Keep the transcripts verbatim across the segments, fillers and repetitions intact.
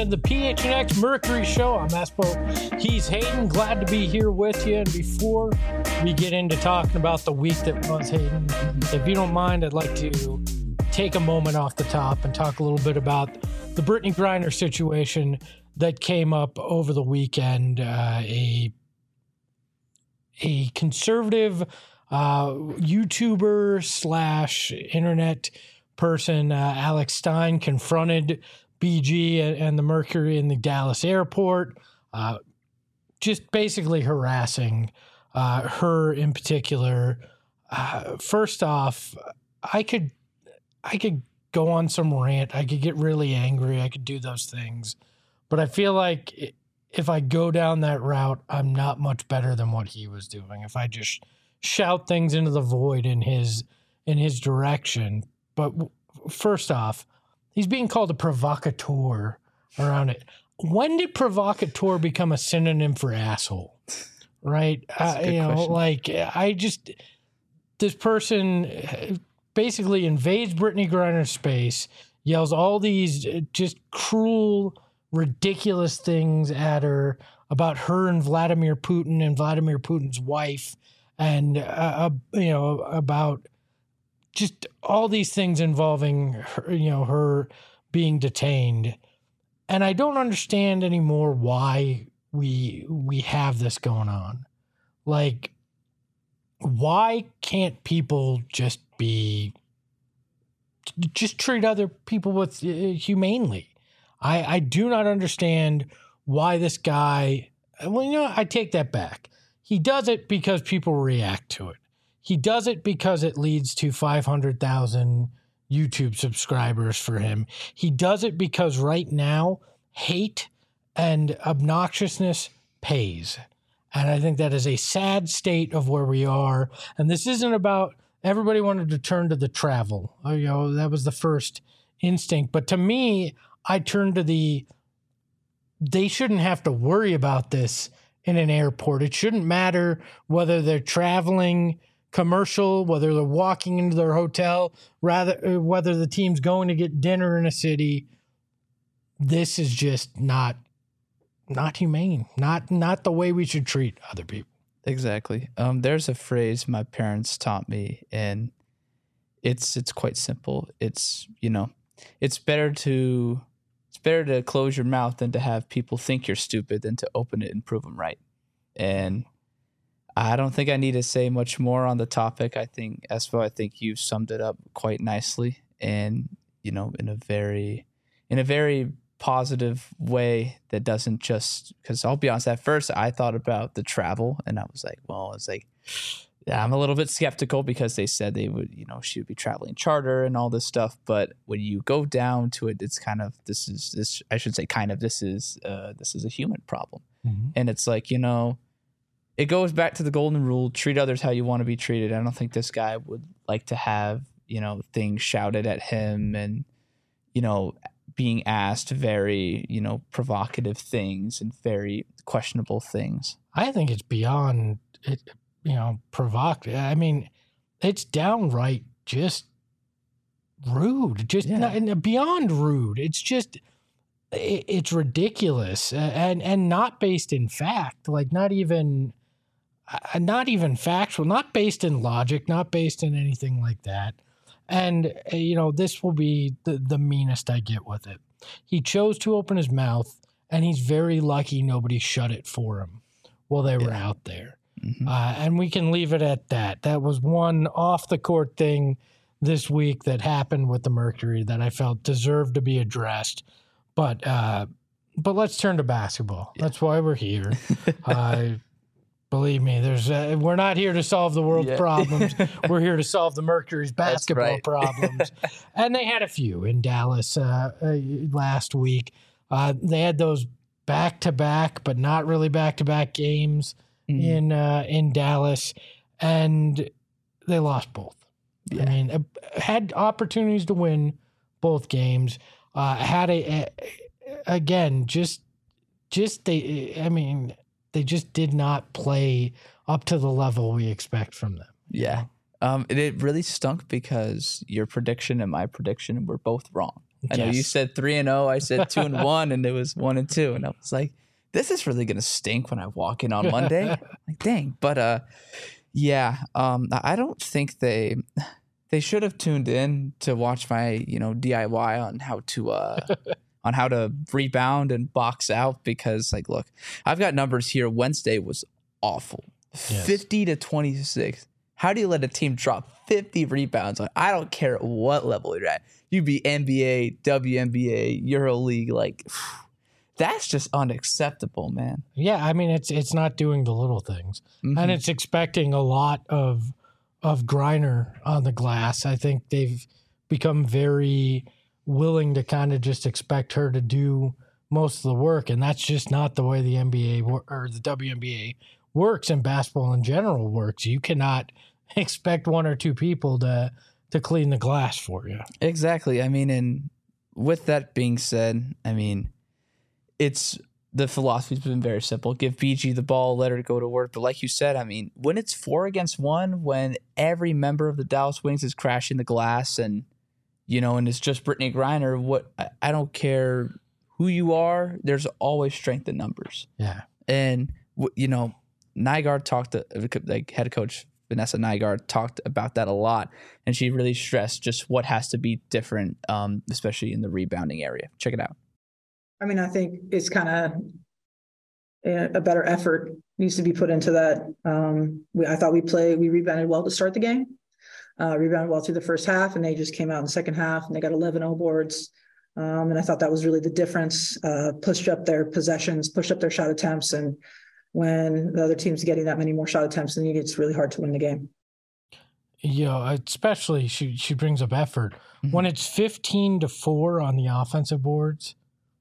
to the P H N X Mercury Show. I'm Espo. He's Hayden. Glad to be here with you. And before we get into talking about the week that was, Hayden, if you don't mind, I'd like to take a moment off the top and talk a little bit about the Brittney Griner situation that came up over the weekend. Uh, a a conservative uh, YouTuber slash internet person, uh, Alex Stein, confronted B G and, and the Mercury in the Dallas airport, uh, just basically harassing uh, her in particular. Uh, first off, I could I could go on some rant. I could get really angry. I could do those things. But I feel like if I go down that route, I'm not much better than what he was doing. If I just shout things into the void in his in his direction. But first off, he's being called a provocateur around it. When did provocateur become a synonym for asshole? Right? Uh, you know, question. like I just this person basically invades Brittney Griner's space, yells all these just cruel, ridiculous things at her about her and Vladimir Putin and Vladimir Putin's wife, and uh, you know about just all these things involving her, you know, her being detained. And I don't understand anymore why we we have this going on. Like, why can't people just be just treat other people with uh, humanely? I I do not understand why this guy. Well, you know, I take that back. He does it because people react to it. He does it because it leads to five hundred thousand YouTube subscribers for him. He does it because right now, hate and obnoxiousness pays. And I think that is a sad state of where we are. And this isn't about everybody wanted to turn to the travel. Oh, you know, that was the first instinct. But to me, I turn to the, they shouldn't have to worry about this in an airport. It shouldn't matter whether they're traveling commercial, whether they're walking into their hotel, rather whether the team's going to get dinner in a city. This is just not not humane, not not the way we should treat other people. Exactly. Um, there's a phrase my parents taught me, and it's it's quite simple. It's, you know, it's better to it's better to close your mouth than to have people think you're stupid than to open it and prove them right. And I don't think I need to say much more on the topic. I think, Espo, I think you summed it up quite nicely, and, you know, in a very, in a very positive way that doesn't just, because I'll be honest, at first I thought about the travel, and I was like, well, it's like, yeah, I'm a little bit skeptical because they said they would, you know, she would be traveling charter and all this stuff. But when you go down to it, it's kind of, this is, this, I should say kind of, this is, uh, this is a human problem. Mm-hmm. And it's like, you know, it goes back to the golden rule, treat others how you want to be treated. I don't think this guy would like to have, you know, things shouted at him and, you know, being asked very, you know, provocative things and very questionable things. I think it's beyond, it, you know, provocative. I mean, it's downright just rude, just yeah. not, beyond rude. It's just, it, it's ridiculous and, and not based in fact, like not even... Uh, not even factual, not based in logic, not based in anything like that. And, uh, you know, this will be the, the meanest I get with it. He chose to open his mouth, and he's very lucky nobody shut it for him while they yeah. were out there. Mm-hmm. Uh, and we can leave it at that. That was one off-the-court thing this week that happened with the Mercury that I felt deserved to be addressed. But, uh, but let's turn to basketball. Yeah. That's why we're here. uh Believe me, there's uh, we're not here to solve the world's yeah. problems. We're here to solve the Mercury's basketball right. problems. And they had a few in Dallas uh, uh, last week. Uh, they had those back-to-back, but not really back-to-back games mm. in uh, in Dallas, and they lost both. Yeah. I mean, uh, had opportunities to win both games. Uh, had a, a again just just they. I mean. They just did not play up to the level we expect from them. Yeah. Um, it, it really stunk because your prediction and my prediction were both wrong. I know Yes. you said three and oh. I said two and one, and it was one and two. And I was like, this is really going to stink when I walk in on Monday. Like, dang. But uh, yeah, um, I don't think they they should have tuned in to watch my, you know, D I Y on how to uh, on how to rebound and box out, because, like, look, I've got numbers here. Wednesday was awful. Yes. fifty to twenty-six. How do you let a team drop fifty rebounds? Like, I don't care what level you're at. You be N B A, W N B A, EuroLeague. Like, that's just unacceptable, man. Yeah, I mean, it's it's not doing the little things, Mhm. and it's expecting a lot of of Griner on the glass. I think they've become very willing to kind of just expect her to do most of the work, and that's just not the way the N B A wor- or the W N B A works, and basketball in general works. You cannot expect one or two people to to clean the glass for you. Exactly. I mean, and with that being said, I mean, it's the philosophy's been very simple. Give B G the ball, let her go to work. But like you said, I mean, when it's four against one, when every member of the Dallas Wings is crashing the glass and, you know, and it's just Brittany Griner, what I, I don't care who you are, there's always strength in numbers. Yeah. And, you know, Nygaard talked to, like, head coach Vanessa Nygaard talked about that a lot, and she really stressed just what has to be different, um, especially in the rebounding area. Check it out. I mean, I think it's kind of a, a better effort needs to be put into that. Um, we, I thought we played, we rebounded well to start the game, uh, rebounded well through the first half, and they just came out in the second half and they got eleven oh boards. Um, and I thought that was really the difference, uh, pushed up their possessions, pushed up their shot attempts. And when the other team's getting that many more shot attempts than you, it's really hard to win the game. You know, especially she she brings up effort. Mm-hmm. When it's fifteen to four on the offensive boards,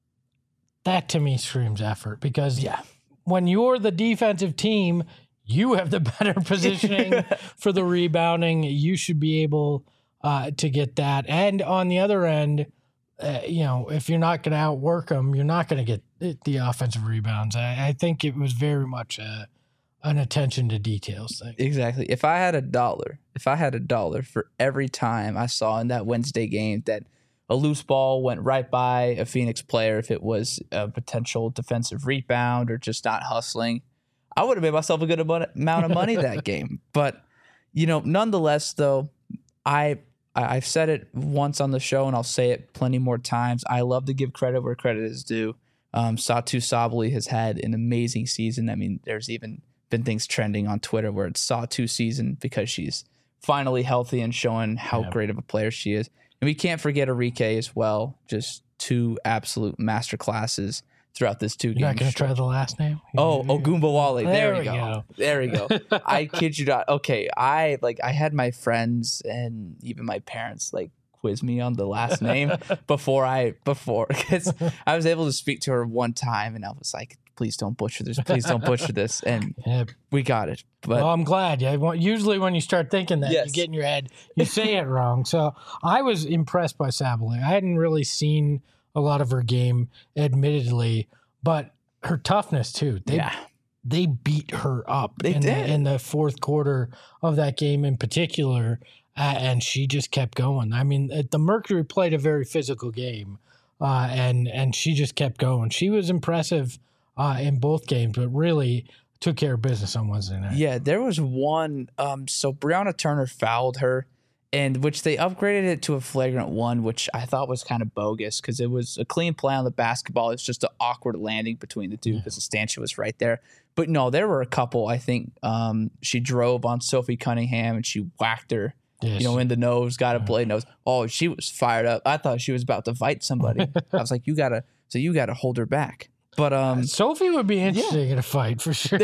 that to me screams effort, because Yeah. when you're the defensive team, you have the better positioning for the rebounding. You should be able uh, to get that. And on the other end, uh, you know, if you're not going to outwork them, you're not going to get the offensive rebounds. I, I think it was very much a, an attention to details thing. Exactly. If I had a dollar, if I had a dollar for every time I saw in that Wednesday game that a loose ball went right by a Phoenix player, if it was a potential defensive rebound or just not hustling, I would have made myself a good amount of money that game. But, you know, nonetheless, though, I I've said it once on the show, and I'll say it plenty more times. I love to give credit where credit is due. Um, Satu Sabally has had an amazing season. I mean, there's even been things trending on Twitter where it's Satu season because she's finally healthy and showing how Yeah. great of a player she is. And we can't forget Arike as well. Just two absolute master classes throughout this two You're not games. going to try the last name? Oh, Ogumbawale. There, There we we go. go. There we go. I kid you not. Okay, I like I had my friends and even my parents like quiz me on the last name before I before because I was able to speak to her one time and I was like, please don't butcher this. Please don't butcher this. And Yeah. we got it. But Well, I'm glad. Yeah, well, usually when you start thinking that, Yes. you get in your head, you say it wrong. So I was impressed by Sabally. I hadn't really seen a lot of her game, admittedly, but her toughness too. They yeah, they beat her up They in, did. The, in the fourth quarter of that game in particular, uh, and she just kept going. I mean, uh, the Mercury played a very physical game, uh, and and she just kept going. She was impressive uh, in both games, but really took care of business on Wednesday night. yeah. There was one. Um, so Brianna Turner fouled her, and which they upgraded it to a flagrant one, which I thought was kind of bogus because it was a clean play on the basketball. It's just an awkward landing between the two because the stanchion was right there. But no, there were a couple. I think um, she drove on Sophie Cunningham and she whacked her, Yes. you know, in the nose, got a blade nose. Oh, she was fired up. I thought she was about to fight somebody. I was like, you gotta, so you gotta hold her back. But um, Sophie would be interesting in a fight for sure.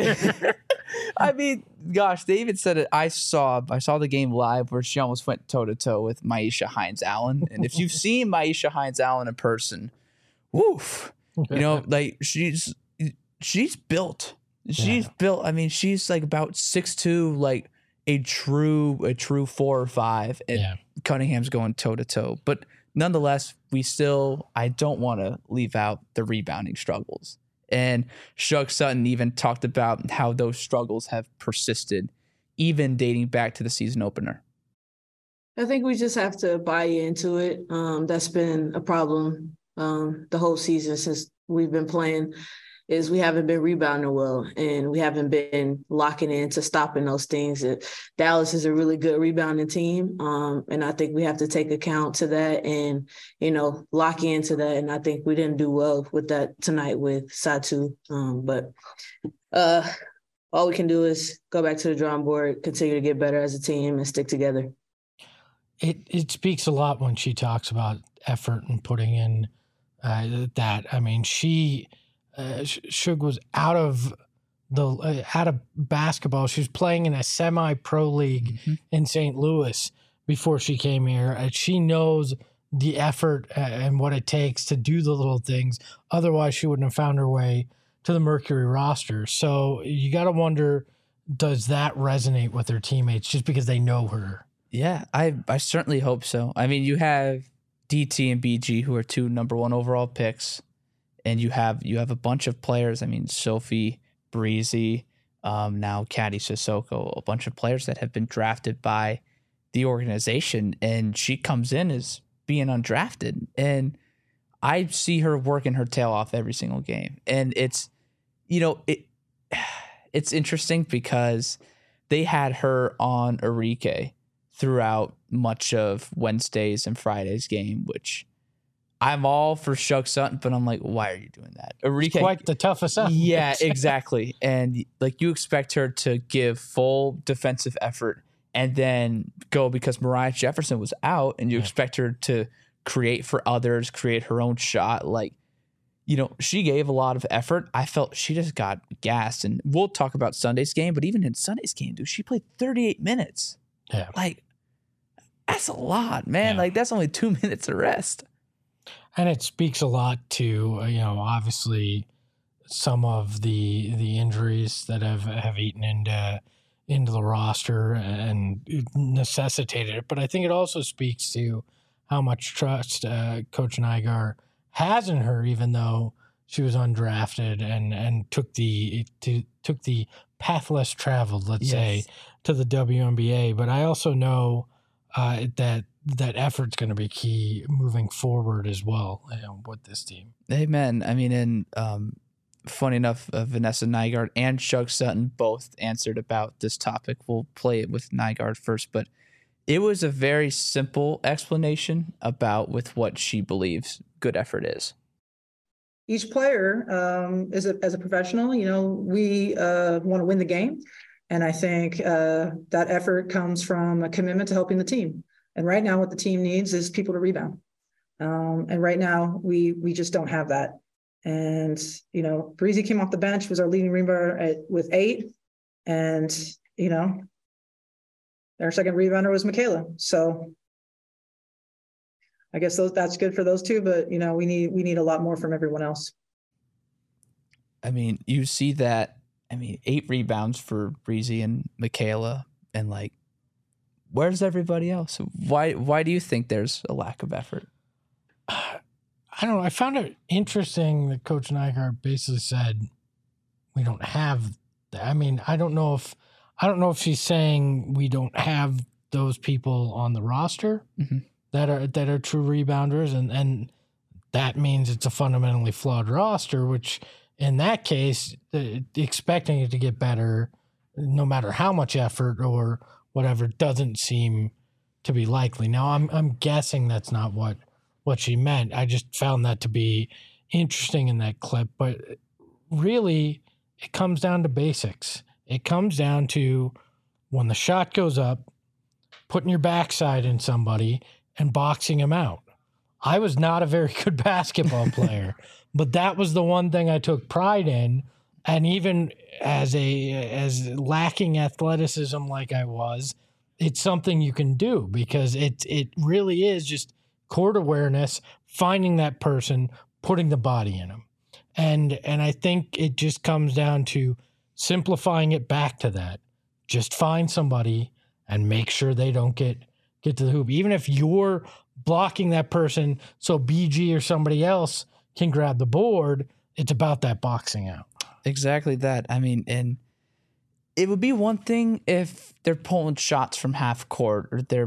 I mean, gosh, they even said it. I saw, I saw the game live where she almost went toe to toe with Maisha Hines Allen. And if you've seen Maisha Hines Allen in person, woof, you know, like she's she's built. She's Yeah. built. I mean, she's like about six two, like a true a true four or five. And Yeah. Cunningham's going toe to toe, but nonetheless, we still. I don't want to leave out the rebounding struggles. And Shug Sutton even talked about how those struggles have persisted, even dating back to the season opener. I think we just have to buy into it. Um, that's been a problem um, the whole season since we've been playing, is we haven't been rebounding well, and we haven't been locking into stopping those things. It, Dallas is a really good rebounding team, um, and I think we have to take account to that and, you know, lock into that. And I think we didn't do well with that tonight with Satu. Um, but uh, all we can do is go back to the drawing board, continue to get better as a team, and stick together. It it speaks a lot when she talks about effort and putting in uh, that. I mean, she uh, Shug was out of the uh, out of basketball. She was playing in a semi-pro league mm-hmm. in Saint Louis before she came here. And she knows the effort and what it takes to do the little things. Otherwise, she wouldn't have found her way to the Mercury roster. So you got to wonder, does that resonate with her teammates just because they know her? Yeah, I I certainly hope so. I mean, you have D T and B G, who are two number one overall picks, and you have you have a bunch of players. I mean, Sophie, Breezy, um, now Caddy Sissoko, a bunch of players that have been drafted by the organization, and she comes in as being undrafted, and I see her working her tail off every single game, and it's, you know, it it's interesting because they had her on Arike throughout much of Wednesday's and Friday's game, which I'm all for Shug Sutton, but I'm like, why are you doing that? Arike, it's quite the tough assignment. Yeah, exactly. And like, you expect her to give full defensive effort and then go because Mariah Jefferson was out, and you yeah. expect her to create for others, create her own shot. Like, you know, she gave a lot of effort. I felt she just got gassed. And we'll talk about Sunday's game, but even in Sunday's game, dude, she played thirty-eight minutes. Yeah. Like, that's a lot, man. Yeah. Like, that's only two minutes of rest. And it speaks a lot to, you know, obviously some of the the injuries that have, have eaten into into the roster and necessitated it. But I think it also speaks to how much trust uh, Coach Nygaard has in her, even though she was undrafted and and took the to, took the path less traveled, let's yes. say, to the W N B A. But I also know uh, that that effort's going to be key moving forward as well, you know, with this team. Amen. I mean, and um, funny enough, uh, Vanessa Nygaard and Shug Sutton both answered about this topic. We'll play it with Nygaard first, but it was a very simple explanation about with what she believes good effort is. Each player um, is a, as a professional, you know, we uh, want to win the game. And I think uh, that effort comes from a commitment to helping the team. And right now what the team needs is people to rebound. Um, and right now we we just don't have that. And, you know, Breezy came off the bench, was our leading rebounder at, with eight. And, you know, our second rebounder was Michaela. So I guess those, that's good for those two, but, you know, we need we need a lot more from everyone else. I mean, you see that, I mean, eight rebounds for Breezy and Michaela, and like, where's everybody else? Why why do you think there's a lack of effort? I don't know. I found it interesting that Coach Nygaard basically said we don't have that. I mean, I don't know if I don't know if she's saying we don't have those people on the roster mm-hmm. that are that are true rebounders, and, and that means it's a fundamentally flawed roster, which in that case, the, expecting it to get better, no matter how much effort or whatever, doesn't seem to be likely. Now, I'm I'm guessing that's not what what she meant. I just found that to be interesting in that clip. But really, it comes down to basics. It comes down to when the shot goes up, putting your backside in somebody and boxing him out. I was not a very good basketball player, but that was the one thing I took pride in. And even as a as lacking athleticism like I was, it's something you can do because it it really is just court awareness, finding that person, putting the body in them. And and I think it just comes down to simplifying it back to that. Just find somebody and make sure they don't get get to the hoop. Even if you're blocking that person so B G or somebody else can grab the board, it's about that boxing out. Exactly that. I mean, and it would be one thing if they're pulling shots from half court or they're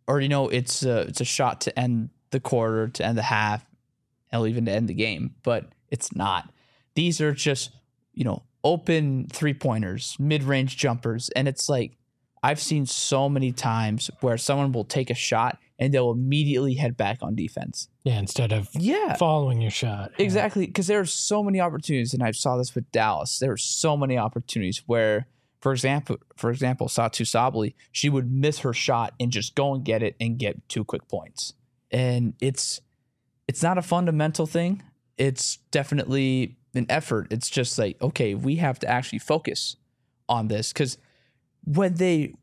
or you know, it's a, it's a shot to end the quarter, to end the half, and even to end the game, but it's not. These are just, you know, open three pointers, mid range jumpers, and it's like I've seen so many times where someone will take a shot and they'll immediately head back on defense. Yeah, instead of yeah. following your shot. Yeah. Exactly, because there are so many opportunities, and I saw this with Dallas. There are so many opportunities where, for example, for example, Satou Sabally, she would miss her shot and just go and get it and get two quick points. And it's it's not a fundamental thing. It's definitely an effort. It's just like, okay, we have to actually focus on this, because when they,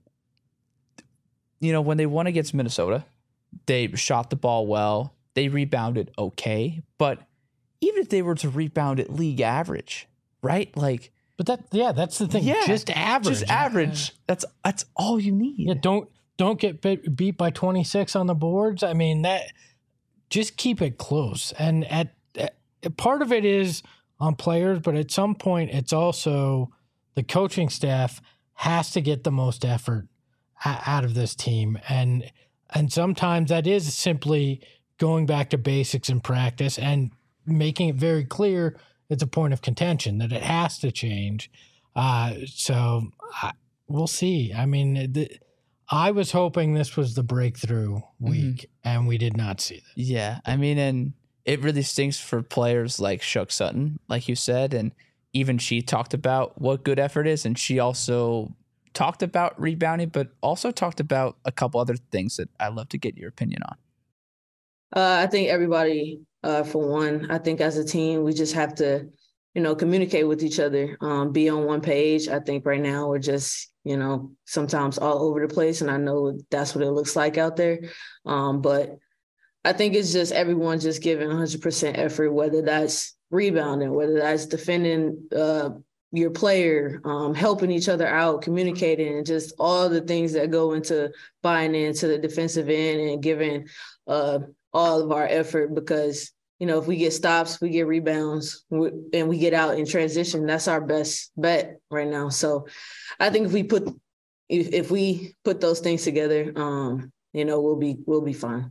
you know, when they won against Minnesota, they shot the ball well. They rebounded okay. But even if they were to rebound at league average, right? Like, but that, yeah, that's the thing. Yeah, just average. Just average. That's that's all you need. Yeah, don't don't get bit, beat by twenty-six on the boards. I mean, that just keep it close. And at, at part of it is on players, but at some point, it's also the coaching staff has to get the most effort out of this team. And and sometimes that is simply going back to basics in practice and making it very clear it's a point of contention, that it has to change. Uh, so I, we'll see. I mean, the, I was hoping this was the breakthrough week, mm-hmm. and we did not see that. Yeah, I mean, and it really stinks for players like Shook Sutton, like you said, and even she talked about what good effort is, and she also talked about rebounding, but also talked about a couple other things that I'd love to get your opinion on. Uh, I think everybody, uh, for one, I think as a team, we just have to, you know, communicate with each other, um, be on one page. I think right now we're just, you know, sometimes all over the place, and I know that's what it looks like out there. Um, but I think it's just everyone just giving one hundred percent effort, whether that's rebounding, whether that's defending uh, your player, um, helping each other out, communicating, and just all the things that go into buying into the defensive end and giving uh, all of our effort. Because, you know, if we get stops, we get rebounds, and we get out in transition, that's our best bet right now. So I think if we put if, if we put those things together, um, you know, we'll be we'll be fine.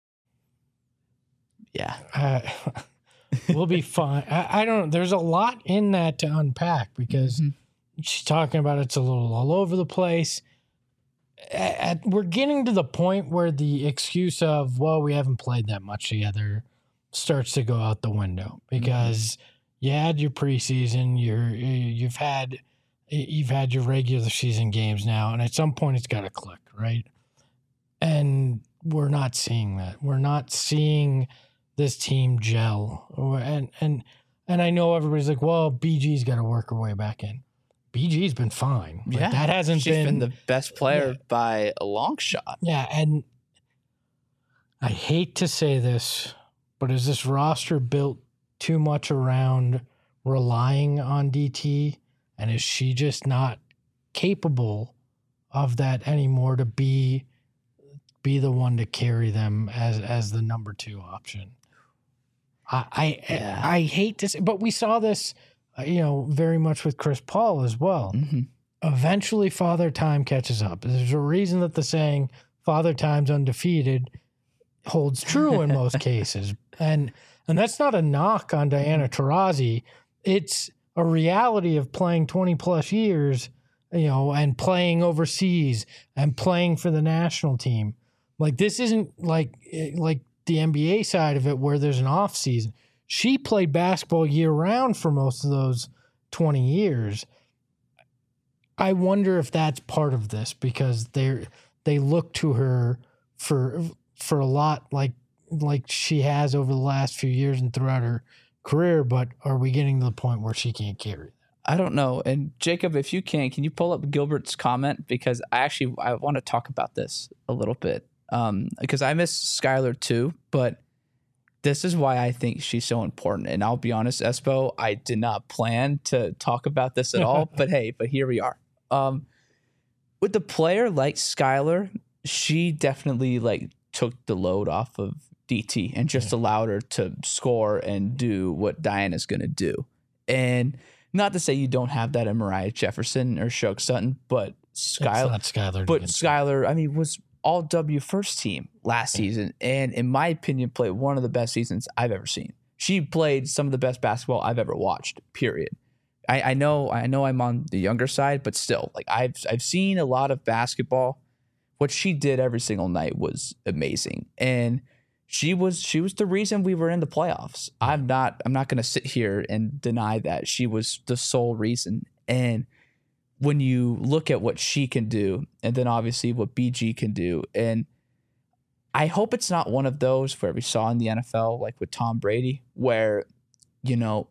Yeah. Uh, we'll be fine. I, I don't, there's a lot in that to unpack, because mm-hmm. she's talking about it's a little all over the place. At, at, we're getting to the point where the excuse of, well, we haven't played that much together starts to go out the window, because mm-hmm. you had your preseason, you're, you've had, you've had your regular season games now, and at some point it's got to click, right? And we're not seeing that. We're not seeing this team gel. And and and I know everybody's like, well, B G's got to work her way back in. B G's been fine. Like, yeah, that hasn't she's been, been the best player yeah. by a long shot. Yeah, and I hate to say this, but is this roster built too much around relying on D T? And is she just not capable of that anymore to be be the one to carry them as as the number two option? I I, yeah. I, I hate to say, but we saw this, uh, you know, very much with Chris Paul as well. Mm-hmm. Eventually, Father Time catches up. There's a reason that the saying "Father Time's undefeated" holds true in most cases, and and that's not a knock on Diana Taurasi. It's a reality of playing twenty plus years, you know, and playing overseas and playing for the national team. Like, this isn't like like the N B A side of it where there's an off season. She played basketball year round for most of those twenty years. I wonder if that's part of this, because they they look to her for for a lot like like she has over the last few years and throughout her career. But are we getting to the point where she can't carry that? I don't know. And Jacob, if you can, can you pull up Gilbert's comment? Because I actually I want to talk about this a little bit. Um, because I miss Skylar too, but this is why I think she's so important. And I'll be honest, Espo, I did not plan to talk about this at all, but hey, but here we are. Um, with the player like Skylar, she definitely like took the load off of D T and just yeah. allowed her to score and do what Diana's going to do. And not to say you don't have that in Mariah Jefferson or Shook Sutton, but Skylar, Skylar, but Skylar, I mean, was all W first team last season. And in my opinion, played one of the best seasons I've ever seen. She played some of the best basketball I've ever watched, period. I, I know I know I'm on the younger side, but still, like I've I've seen a lot of basketball. What she did every single night was amazing. And she was she was the reason we were in the playoffs. I'm not I'm not gonna sit here and deny that. She was the sole reason. And when you look at what she can do, and then obviously what B G can do, and I hope it's not one of those where we saw in the N F L, like with Tom Brady, where, you know,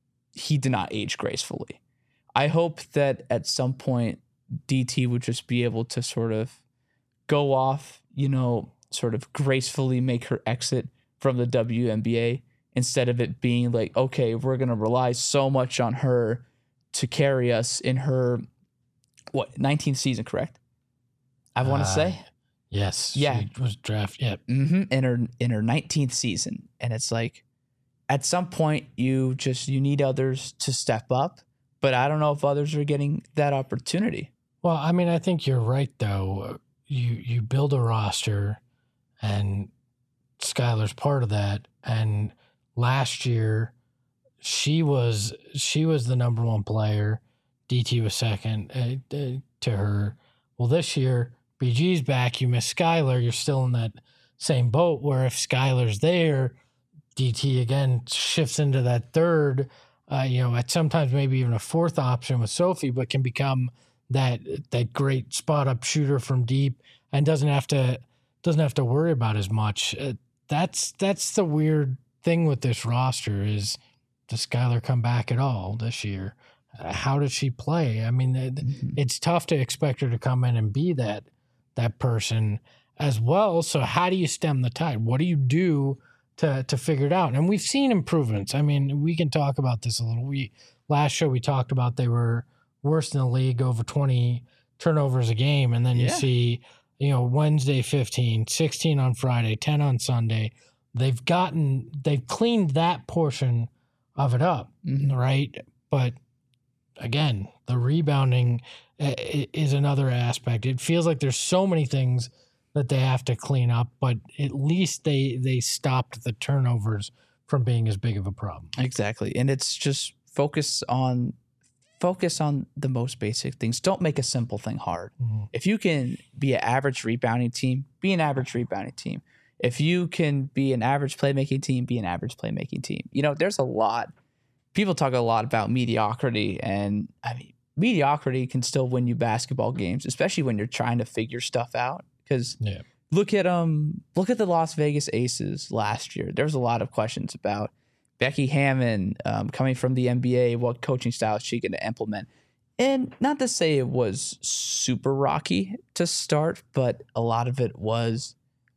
he did not age gracefully. I hope that at some point D T would just be able to sort of go off, you know, sort of gracefully make her exit from the W N B A, instead of it being like, okay, we're going to rely so much on her to carry us in her, what, nineteenth season, correct? I want to uh, say. Yes. Yeah. She was drafted. Yeah. Mm-hmm. In her, in her nineteenth season. And it's like, at some point you just, you need others to step up, but I don't know if others are getting that opportunity. Well, I mean, I think you're right though. You, you build a roster and Skylar's part of that. And last year she was, she was the number one player. D T was second uh, uh, to her. Well, this year B G's back. You miss Skylar. You're still in that same boat where if Skylar's there, D T again shifts into that third, uh, you know, at sometimes maybe even a fourth option with Sophie, but can become that that great spot up shooter from deep and doesn't have to doesn't have to worry about as much. Uh, that's that's the weird thing with this roster is, does Skylar come back at all this year? Uh, how does she play? I mean, it, mm-hmm. it's tough to expect her to come in and be that that person as well. So how do you stem the tide? What do you do to to figure it out? And we've seen improvements. I mean, we can talk about this a little. We last show we talked about they were worst in the league, over twenty turnovers a game, and then you yeah. see, you know, Wednesday fifteen, sixteen on Friday, ten on Sunday. They've gotten they've cleaned that portion of it up, mm-hmm. right? But again, the rebounding is another aspect. It feels like there's so many things that they have to clean up, but at least they they stopped the turnovers from being as big of a problem. Exactly. And it's just focus on focus on the most basic things. Don't make a simple thing hard. Mm-hmm. If you can be an average rebounding team, be an average rebounding team. If you can be an average playmaking team, be an average playmaking team. You know, there's a lot. People talk a lot about mediocrity, and I mean, mediocrity can still win you basketball games, especially when you're trying to figure stuff out. Because yeah. look at um look at the Las Vegas Aces last year. There was a lot of questions about Becky Hammon um, coming from the N B A. What coaching style is she going to implement? And not to say it was super rocky to start, but a lot of it was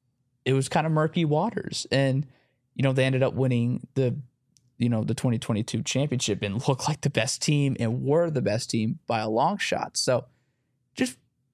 it was kind of murky waters. And you know, they ended up winning the you know, the twenty twenty-two championship and looked like the best team and were the best team by a long shot. So just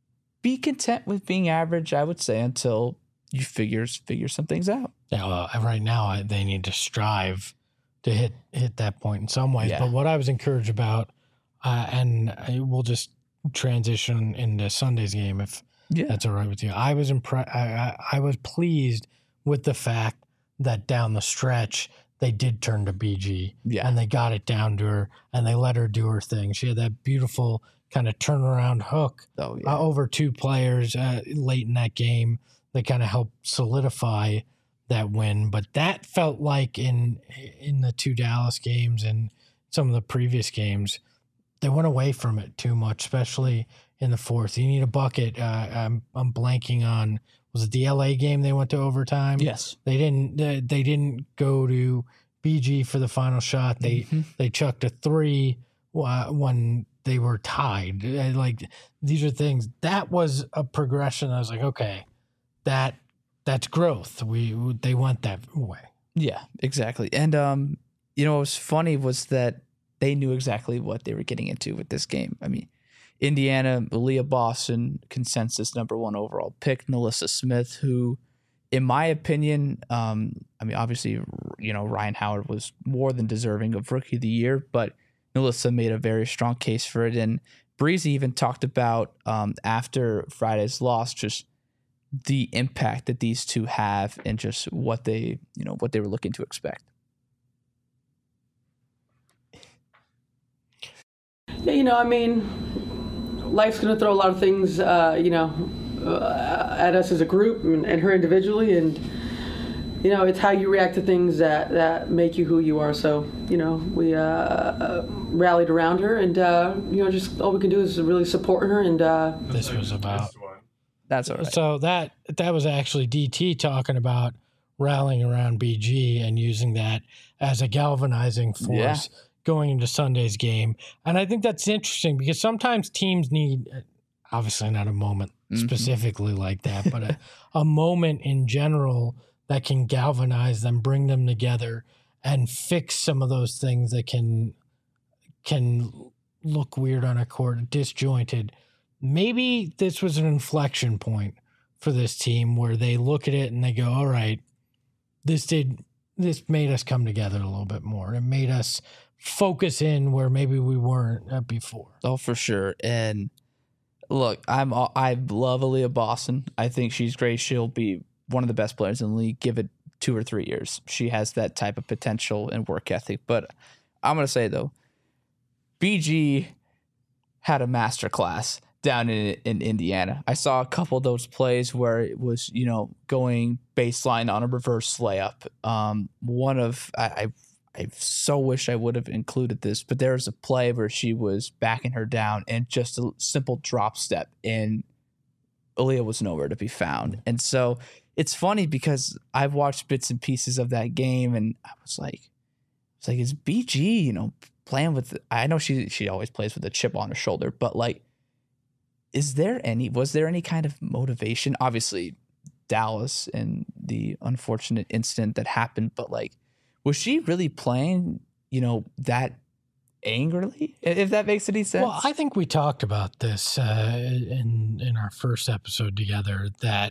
be content with being average, I would say, until you figure, figure some things out. Yeah, well, right now they need to strive to hit hit that point in some ways. Yeah. But what I was encouraged about, uh, and I, we'll just transition into Sunday's game if yeah. that's all right with you. I was impre- I, I, I was pleased with the fact that down the stretch they did turn to B G, yeah. and they got it down to her, and they let her do her thing. She had that beautiful kind of turnaround hook oh, yeah. uh, over two players uh, late in that game that kind of helped solidify that win. But that felt like in in the two Dallas games and some of the previous games, they went away from it too much, especially in the fourth. You need a bucket. Uh, I'm I'm blanking on. Was it the L A game they went to overtime? Yes. They didn't they, they didn't go to B G for the final shot. They mm-hmm. they chucked a three uh, when they were tied. Like, these are things. That was a progression. I was like, okay, that that's growth. We they went that way. Yeah, exactly. And um, you know, what was funny was that they knew exactly what they were getting into with this game. I mean, Indiana, Aaliyah Boston, consensus number one overall pick, NaLyssa Smith, who, in my opinion, um, I mean, obviously, you know, Ryan Howard was more than deserving of Rookie of the Year, but NaLyssa made a very strong case for it. And Breezy even talked about um, after Friday's loss, just the impact that these two have and just what they, you know, what they were looking to expect. Yeah, you know, I mean, life's going to throw a lot of things, uh, you know, uh, at us as a group and, and her individually. And, you know, it's how you react to things that, that make you who you are. So, you know, we uh, uh, rallied around her and, uh, you know, just all we can do is really support her. And uh, this was about. That's all right. So that that was actually D T talking about rallying around B G and using that as a galvanizing force Yeah. going into Sunday's game. And I think that's interesting because sometimes teams need, obviously not a moment Mhm. specifically like that, but a, a moment in general that can galvanize them, bring them together, and fix some of those things that can can look weird on a court, disjointed. Maybe this was an inflection point for this team where they look at it and they go, all right, this did this made us come together a little bit more. It made us focus in where maybe we weren't uh, before. Oh, for sure. And look, I'm I love Aaliyah Boston. I think she's great. She'll be one of the best players in the league. Give it two or three years. She has that type of potential and work ethic. But I'm gonna say though, B G had a master class down in in Indiana. I saw a couple of those plays where it was, you know, going baseline on a reverse layup. Um, one of I, I I so wish I would have included this, but there was a play where she was backing her down and just a simple drop step, and Aaliyah was nowhere to be found. And so it's funny because I've watched bits and pieces of that game, and I was like, it's like, is B G, you know, playing with? I know she she always plays with a chip on her shoulder, but like, is there any, was there any kind of motivation? Obviously, Dallas and the unfortunate incident that happened, but like, was she really playing, you know, that angrily? If that makes any sense. Well, I think we talked about this uh, in in our first episode together, that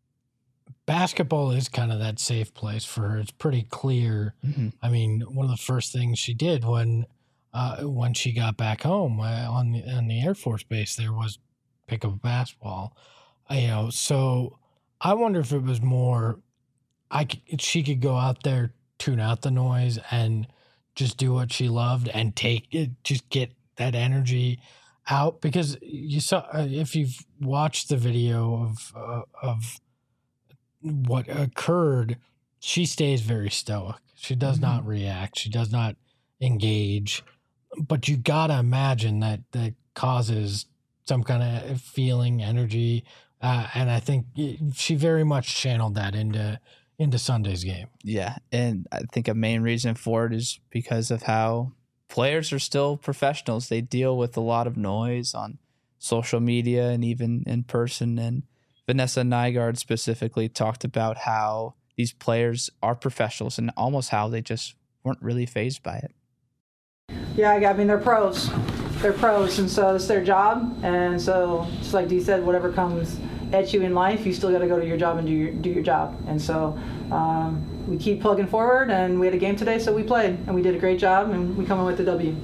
basketball is kind of that safe place for her. It's pretty clear. Mm-hmm. I mean, one of the first things she did when uh, when she got back home uh, on the on the Air Force Base there was pick up a basketball. Uh, you know, so I wonder if it was more, I could, she could go out there, tune out the noise, and just do what she loved and take it, just get that energy out. Because you saw, if you've watched the video of uh, of what occurred, she stays very stoic. She does Mm-hmm. not react. She does not engage. But you gotta imagine that that causes some kind of feeling, energy, uh, and I think she very much channeled that into into Sunday's game. Yeah, and I think a main reason for it is because of how players are still professionals. They deal with a lot of noise on social media and even in person. And Vanessa Nygaard specifically talked about how these players are professionals and almost how they just weren't really fazed by it. Yeah, I mean, they're pros. They're pros, and so it's their job. And so, just like Dee said, whatever comes at you in life, you still got to go to your job and do your do your job. And so, um, we keep plugging forward. And we had a game today, so we played, and we did a great job, and we come in with the W.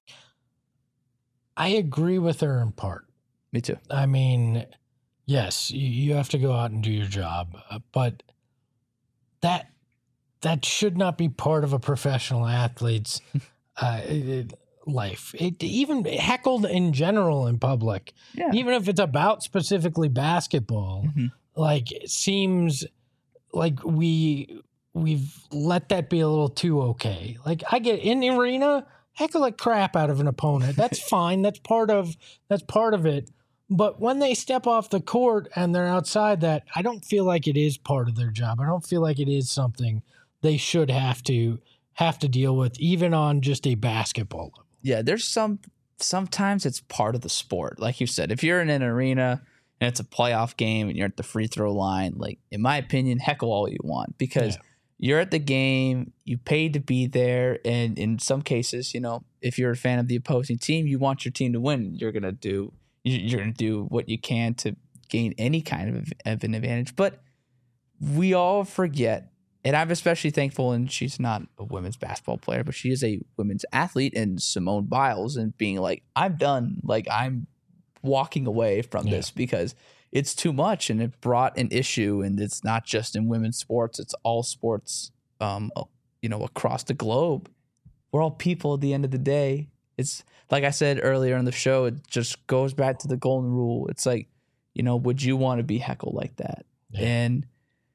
I agree with her in part. Me too. I mean, yes, you, you have to go out and do your job, uh, but that that should not be part of a professional athlete's uh, it, life. It even heckled in general in public, Yeah. even if it's about specifically basketball. Mm-hmm. Like, it seems like we we've let that be a little too okay. Like, I get in the arena, heckle like crap out of an opponent. That's fine. That's part of that's part of it. But when they step off the court and they're outside that, I don't feel like it is part of their job. I don't feel like it is something they should have to have to deal with, even on just a basketball level. Yeah, there's some sometimes it's part of the sport. Like you said, if you're in an arena and it's a playoff game and you're at the free throw line, like, in my opinion, heckle all you want, because Yeah. you're at the game, you paid to be there, and in some cases, you know, if you're a fan of the opposing team, you want your team to win. You're gonna do you're gonna do what you can to gain any kind of, of an advantage. But we all forget, and I'm especially thankful, and she's not a women's basketball player, but she is a women's athlete, and Simone Biles, and being like, I'm done. Like, I'm walking away from Yeah. this because it's too much, and it brought an issue. And it's not just in women's sports; it's all sports, um, you know, across the globe. We're all people at the end of the day. It's like I said earlier in the show. It just goes back to the golden rule. It's like, you know, would you want to be heckled like that? Yeah. And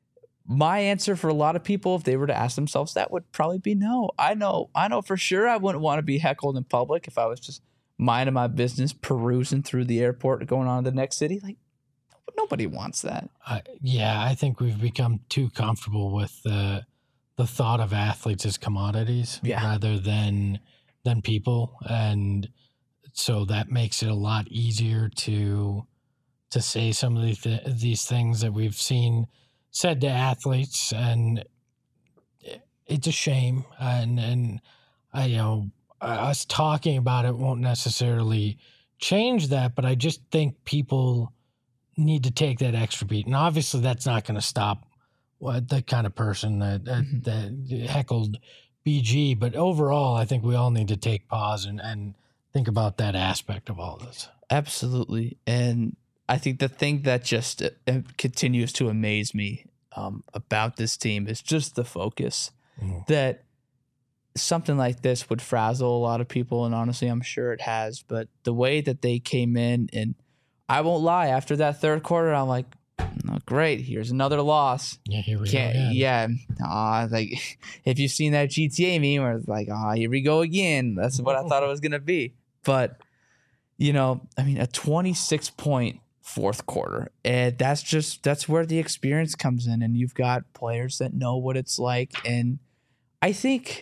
my answer for a lot of people, if they were to ask themselves that, would probably be no. I know, I know for sure I wouldn't want to be heckled in public if I was just minding my business, perusing through the airport, going on to the next city. Like, nobody wants that. Uh, yeah, I think we've become too comfortable with the the thought of athletes as commodities Yeah. rather than than people, and so that makes it a lot easier to to say some of these th- these things that we've seen said to athletes, and it's a shame. And and I, you know, us talking about it won't necessarily change that, but I just think people need to take that extra beat. And obviously that's not going to stop what the kind of person that, that, Mm-hmm. that heckled B G. But overall, I think we all need to take pause and, and think about that aspect of all this. Absolutely. And I think the thing that just uh, continues to amaze me um, about this team is just the focus. Mhm. That something like this would frazzle a lot of people. And honestly, I'm sure it has. But the way that they came in, and I won't lie, after that third quarter, I'm like, oh, great, here's another loss. Yeah, here we Can't, go. Again. yeah. Aw, like, if you've seen that G T A meme where it's like, oh, here we go again. That's what I thought it was going to be. But, you know, I mean, a twenty-six point fourth quarter. And that's just, that's where the experience comes in. And you've got players that know what it's like. And I think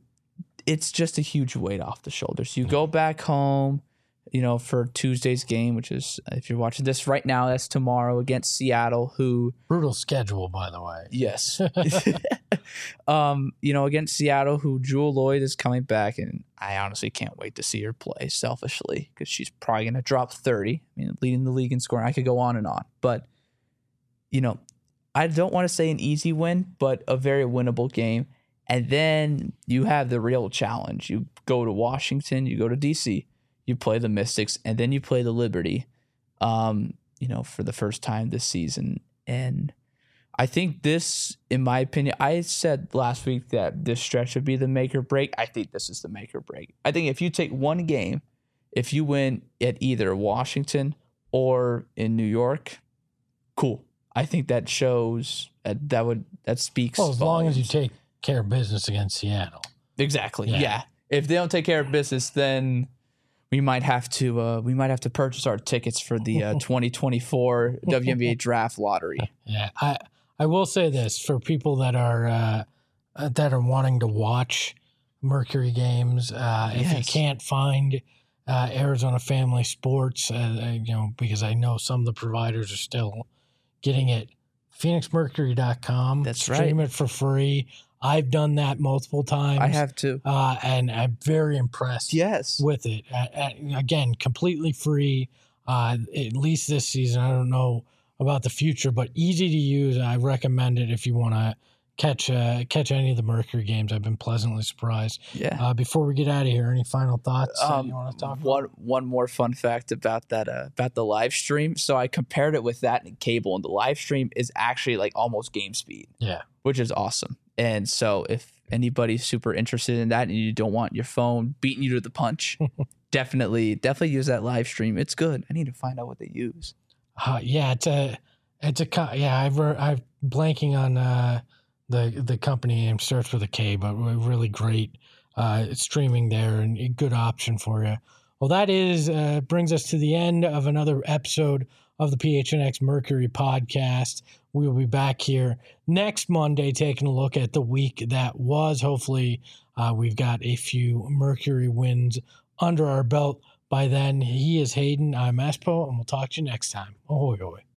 it's just a huge weight off the shoulders. You go back home, you know, for Tuesday's game, which is, if you're watching this right now, that's tomorrow against Seattle, who, Brutal schedule, by the way. yes, um, you know, against Seattle, who Jewel Lloyd is coming back, and I honestly can't wait to see her play selfishly because she's probably going to drop thirty. I mean, leading the league in scoring. I could go on and on, but you know, I don't want to say an easy win, but a very winnable game. And then you have the real challenge. You go to Washington, you go to D C, you play the Mystics, and then you play the Liberty, um, you know, for the first time this season. And I think this, in my opinion, I said last week that this stretch would be the make or break. I think this is the make or break. I think if you take one game, if you win at either Washington or in New York, cool. I think that shows uh, that would that speaks. Well, as long as you volumes. take care of business against Seattle. Exactly. Yeah. Yeah. If they don't take care of business, then we might have to uh, we might have to purchase our tickets for the uh, twenty twenty-four W N B A draft lottery. Yeah, I I will say this for people that are uh, uh, that are wanting to watch Mercury games. Uh, if you Yes. can't find uh, Arizona Family Sports, uh, uh, you know, because I know some of the providers are still getting it. Phoenix Mercury dot com. That's Stream right. it for free. I've done that multiple times. I have to. uh, and I'm very impressed Yes. with it. Uh, uh, again, completely free, uh, at least this season. I don't know about the future, but easy to use. I recommend it if you want to catch uh, catch any of the Mercury games. I've been pleasantly surprised. Yeah. Uh, before we get out of here, any final thoughts that Um, you want to talk about? one one more fun fact about that uh, about the live stream. So I compared it with that in cable, and the live stream is actually like almost game speed, Yeah. which is awesome. And so if anybody's super interested in that and you don't want your phone beating you to the punch, definitely definitely use that live stream. It's good. I need to find out what they use. Uh, yeah, it's a, it's a, co- yeah. I've, I'm blanking on uh, the the company name. Starts with a K, but really great uh, streaming there and a good option for you. Well, that is uh, brings us to the end of another episode of the P H N X Mercury podcast. We will be back here next Monday taking a look at the week that was. Hopefully, uh, we've got a few Mercury wins under our belt by then. He is Hayden. I'm Espo, and we'll talk to you next time. Ahoy, ahoy.